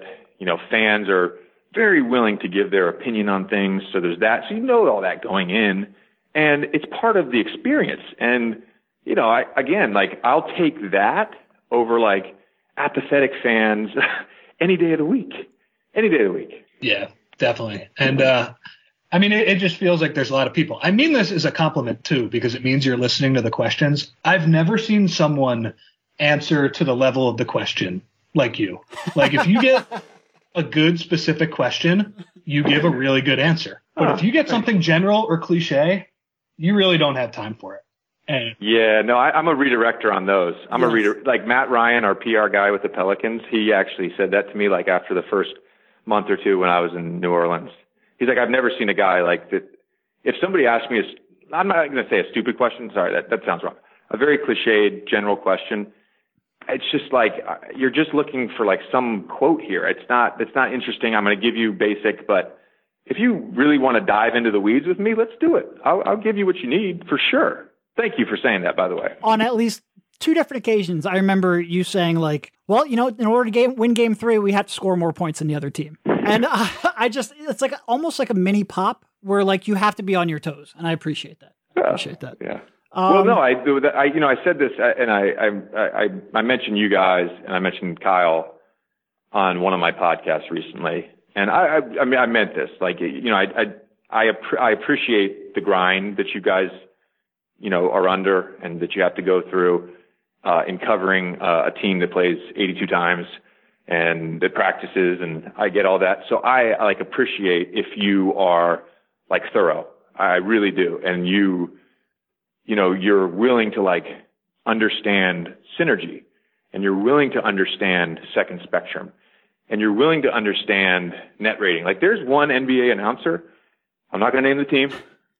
S2: You know, fans are very willing to give their opinion on things. So there's that. So you know all that going in, and it's part of the experience. And, you know, I, again, like I'll take that over like apathetic fans any day of the week, any day of the week.
S3: Yeah, definitely. And, uh, I mean, it, it just feels like there's a lot of people. I mean this as a compliment too, because it means you're listening to the questions. I've never seen someone answer to the level of the question like you. Like if you get a good specific question, you give a really good answer. But if you get something general or cliche, you really don't have time for it. And
S2: yeah, no, I, I'm a redirector on those. I'm
S1: yes.
S2: a reader. Like Matt Ryan, our P R guy with the Pelicans, he actually said that to me like after the first month or two when I was in New Orleans. He's like, I've never seen a guy like that. If somebody asked me, a, I'm not going to say a stupid question. Sorry, that, that sounds wrong. A very cliched general question. It's just like you're just looking for like some quote here. It's not it's not interesting. I'm going to give you basic, but if you really want to dive into the weeds with me, let's do it. I'll, I'll give you what you need for sure. Thank you for saying that, by the way.
S1: On at least two different occasions, I remember you saying like, well, you know, in order to game, win game three, we have to score more points than the other team. And uh, I just, it's like almost like a mini pop where like you have to be on your toes. And I appreciate that. I
S2: yeah,
S1: appreciate that.
S2: Yeah.
S1: Um,
S2: well, no, I do that. I, you know, I said this and I, I, I, I mentioned you guys and I mentioned Kyle on one of my podcasts recently. And I, I, I mean, I meant this, like, you know, I, I, I, I appreciate the grind that you guys, you know, are under and that you have to go through, uh, in covering uh, a team that plays eighty-two times and that practices. And I get all that. So I, I like appreciate if you are like thorough. I really do. And you, you know, you're willing to like understand synergy and you're willing to understand second spectrum and you're willing to understand net rating. Like there's one N B A announcer, I'm not going to name the team,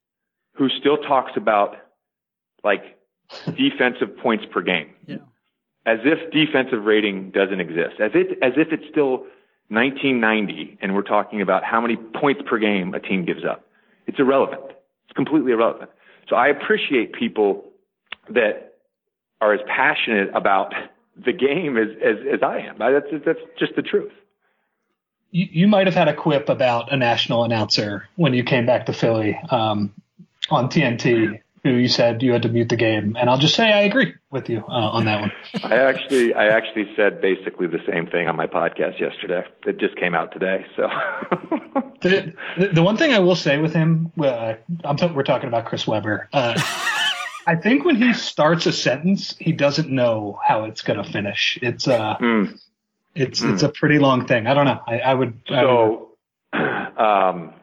S2: who still talks about like defensive points per game,
S1: yeah.
S2: as if defensive rating doesn't exist, as if, as if it's still nineteen ninety and we're talking about how many points per game a team gives up. It's irrelevant. It's completely irrelevant. So I appreciate people that are as passionate about the game as, as, as I am. That's, that's just the truth.
S3: You, you might have had a quip about a national announcer when you came back to Philly um, on T N T, who you said you had to mute the game. And I'll just say I agree with you uh, on that one.
S2: I actually I actually said basically the same thing on my podcast yesterday. It just came out today. So
S3: the, the, the one thing I will say with him, uh, I'm t- we're talking about Chris Webber. Uh, I think when he starts a sentence, he doesn't know how it's going to finish. It's uh, mm. it's mm. it's a pretty long thing. I don't know. I, I would. I
S2: so, would... um,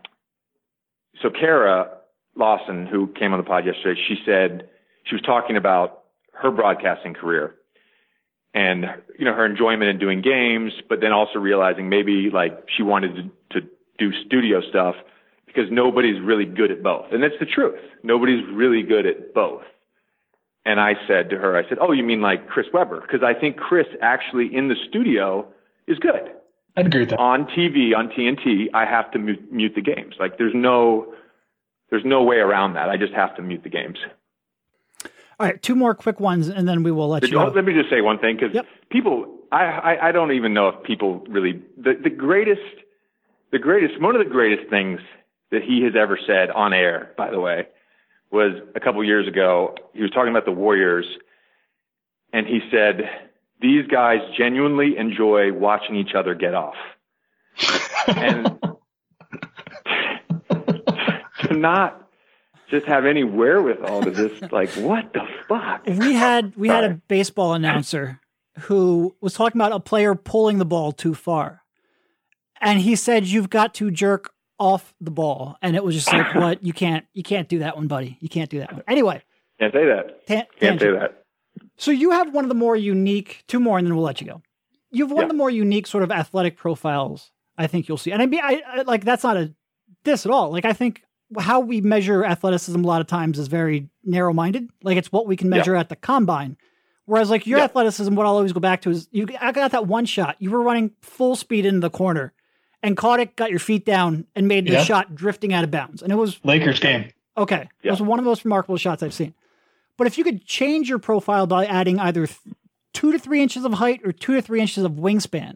S2: so Kara Lawson, who came on the pod yesterday, she said she was talking about her broadcasting career and, you know, her enjoyment in doing games, but then also realizing maybe like she wanted to, to do studio stuff because nobody's really good at both. And that's the truth. Nobody's really good at both. And I said to her, I said, oh, you mean like Chris Webber? Because I think Chris actually in the studio is good.
S3: I'd agree with that.
S2: On T V, on T N T, I have to mute, mute the games. Like there's no... There's no way around that. I just have to mute the games.
S1: All right, two more quick ones, and then we will let
S2: Did
S1: you
S2: you
S1: go.
S2: Let me just say one thing, because
S1: yep.
S2: people, I, I, I don't even know if people really, the, the greatest, the greatest, one of the greatest things that he has ever said on air, by the way, was a couple years ago. He was talking about the Warriors, and he said, these guys genuinely enjoy watching each other get off. And to not just have any wherewithal to this, like, what the fuck?
S1: We had we had a baseball announcer who was talking about a player pulling the ball too far. And he said, you've got to jerk off the ball. And it was just like, what? You can't, you can't do that one, buddy. You can't do that one. Anyway.
S2: Can't say that.
S1: Tan-
S2: can't say that.
S1: So you have one of the more unique, two more, and then we'll let you go. You have one
S2: yeah.
S1: of the more unique sort of athletic profiles I think you'll see. And I mean, I, I like, that's not a diss at all. Like, I think how we measure athleticism a lot of times is very narrow-minded. Like, it's what we can measure yeah. at the combine. Whereas, like, your yeah. athleticism, what I'll always go back to is, you I got that one shot. You were running full speed into the corner and caught it, got your feet down, and made the yeah. shot drifting out of bounds. And it was...
S3: Lakers game.
S1: Okay.
S2: Yeah.
S1: It was one of the most remarkable shots I've seen. But if you could change your profile by adding either th- two to three inches of height or two to three inches of wingspan,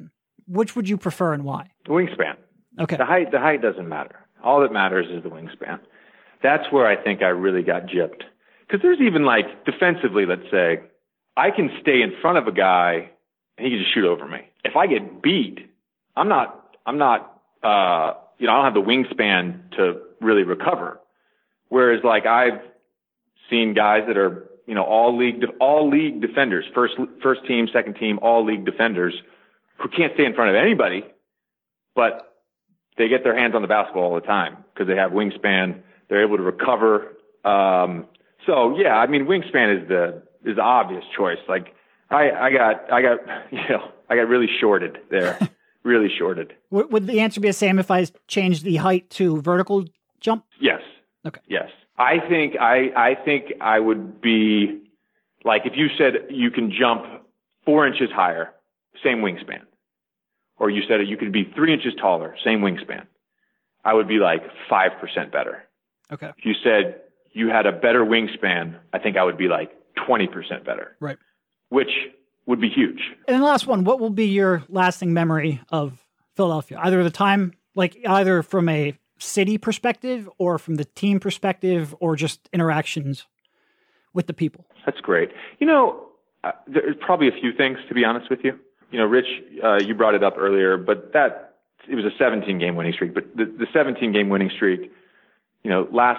S1: which would you prefer and why?
S2: The wingspan.
S1: Okay.
S2: The height, the height doesn't matter. All that matters is the wingspan. That's where I think I really got gypped. Because there's even like defensively, let's say, I can stay in front of a guy and he can just shoot over me. If I get beat, I'm not, I'm not, uh, you know, I don't have the wingspan to really recover. Whereas like I've seen guys that are, you know, all league, all league defenders, first, first team, second team, all league defenders who can't stay in front of anybody, but they get their hands on the basketball all the time because they have wingspan. They're able to recover. Um, so yeah, I mean, wingspan is the, is the obvious choice. Like I, I got, I got, you know, I got really shorted there, really shorted.
S1: Would, would the answer be the same if I changed the height to vertical jump?
S2: Yes.
S1: Okay.
S2: Yes. I think, I, I think I would be like, if you said you can jump four inches higher, same wingspan, or you said you could be three inches taller, same wingspan, I would be like five percent better.
S1: Okay.
S2: If you said you had a better wingspan, I think I would be like twenty percent better.
S1: Right.
S2: Which would be huge.
S1: And then the last one, what will be your lasting memory of Philadelphia? Either the time, like either from a city perspective or from the team perspective or just interactions with the people?
S2: That's great. You know, uh, there's probably a few things, to be honest with you. You know, Rich, uh, you brought it up earlier, but that, it was a seventeen game winning streak, but the, the seventeen game winning streak, you know, last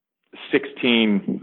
S2: sixteen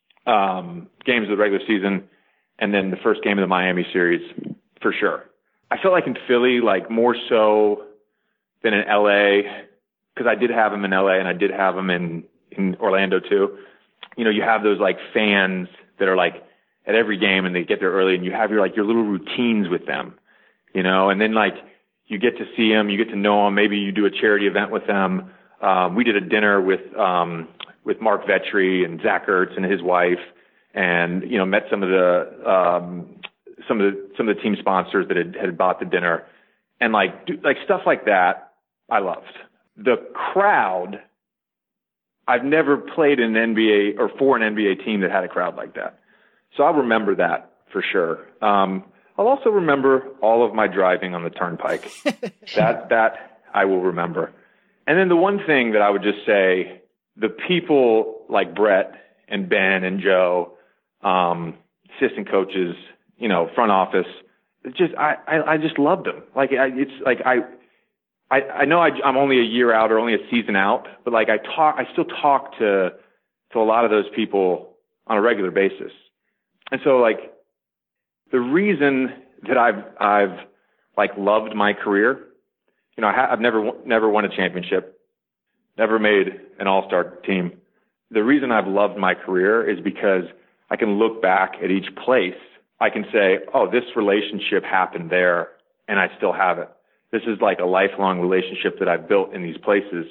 S2: um, games of the regular season, and then the first game of the Miami series, for sure. I felt like in Philly, like more so than in L A, because I did have them in L A and I did have them in, in Orlando too. You know, you have those like fans that are like at every game and they get there early and you have your like your little routines with them, you know, and then like you get to see them, you get to know them. Maybe you do a charity event with them. Um, we did a dinner with, um, with Mark Vetri and Zach Ertz and his wife, and, you know, met some of the, um, some of the, some of the team sponsors that had, had bought the dinner, and like, do, like stuff like that. I loved the crowd. I've never played in an N B A or for an N B A team that had a crowd like that. So I'll remember that for sure. Um, I'll also remember all of my driving on the turnpike. that, that I will remember. And then the one thing that I would just say, the people like Brett and Ben and Joe, um, assistant coaches, you know, front office, just, I, I, I just loved them. Like, I, it's like, I, I, I know I, I'm only a year out or only a season out, but like I talk, I still talk to, to a lot of those people on a regular basis. And so like the reason that I've, I've like loved my career, you know, I ha- I've never, never won a championship, never made an all-star team. The reason I've loved my career is because I can look back at each place. I can say, oh, this relationship happened there and I still have it. This is like a lifelong relationship that I've built in these places.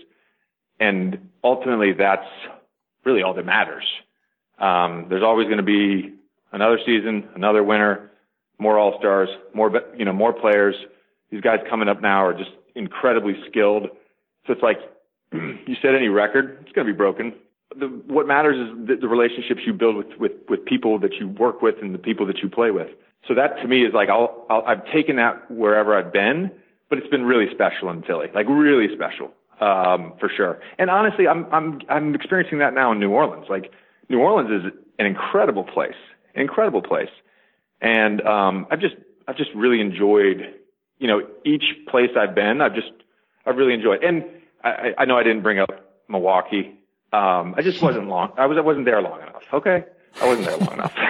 S2: And ultimately, that's really all that matters. Um, there's always going to be another season, another winter, more all-stars, more, you know, more players. These guys coming up now are just incredibly skilled. So it's like, you set any record, it's going to be broken. The, what matters is the, the relationships you build with, with, with people that you work with and the people that you play with. So that to me is like, I'll, I'll, I've taken that wherever I've been, but it's been really special in Philly, like really special, um, for sure. And honestly, I'm, I'm, I'm experiencing that now in New Orleans. Like New Orleans is an incredible place, an incredible place. And, um, I've just, I've just really enjoyed, you know, each place I've been, I've just, I've really enjoyed. And I, I know I didn't bring up Milwaukee. Um, I just wasn't long. I was, I wasn't there long enough. Okay. I wasn't there long enough.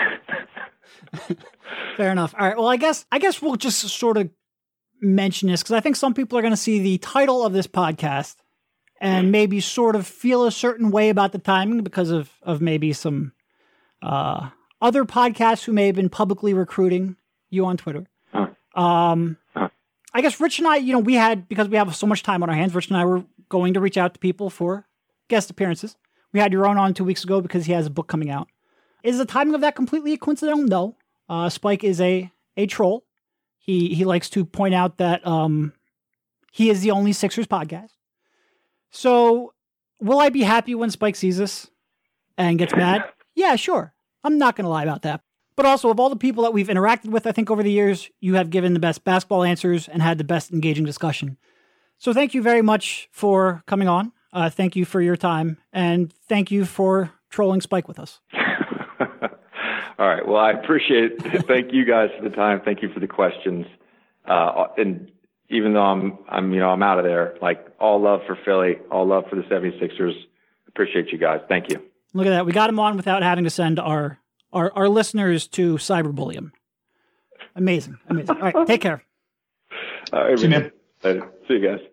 S1: Fair enough. All right. Well, I guess, I guess we'll just sort of mention this because I think some people are going to see the title of this podcast and maybe sort of feel a certain way about the timing because of, of maybe some, uh, other podcasts who may have been publicly recruiting you on Twitter.
S2: Huh.
S1: Um,
S2: huh.
S1: I guess Rich and I, you know, we had, because we have so much time on our hands, Rich and I were going to reach out to people for guest appearances. We had your own on two weeks ago because he has a book coming out. Is the timing of that completely coincidental? No. Uh, Spike is a, a troll. He he likes to point out that um, he is the only Sixers podcast. So will I be happy when Spike sees this and gets mad? Yeah, sure. I'm not going to lie about that. But also, of all the people that we've interacted with, I think over the years, you have given the best basketball answers and had the best engaging discussion. So thank you very much for coming on. Uh, thank you for your time. And thank you for trolling Spike with us.
S2: All right. Well, I appreciate it. Thank you guys for the time. Thank you for the questions. Uh, and even though I'm, I'm, you know, I'm out of there, like all love for Philly, all love for the seventy-sixers. Appreciate you guys. Thank you.
S1: Look at that. We got him on without having to send our Our, our listeners to cyberbully him. Amazing. Amazing. All right. Take care.
S2: All right.
S3: See you, man.
S2: Later. See you guys.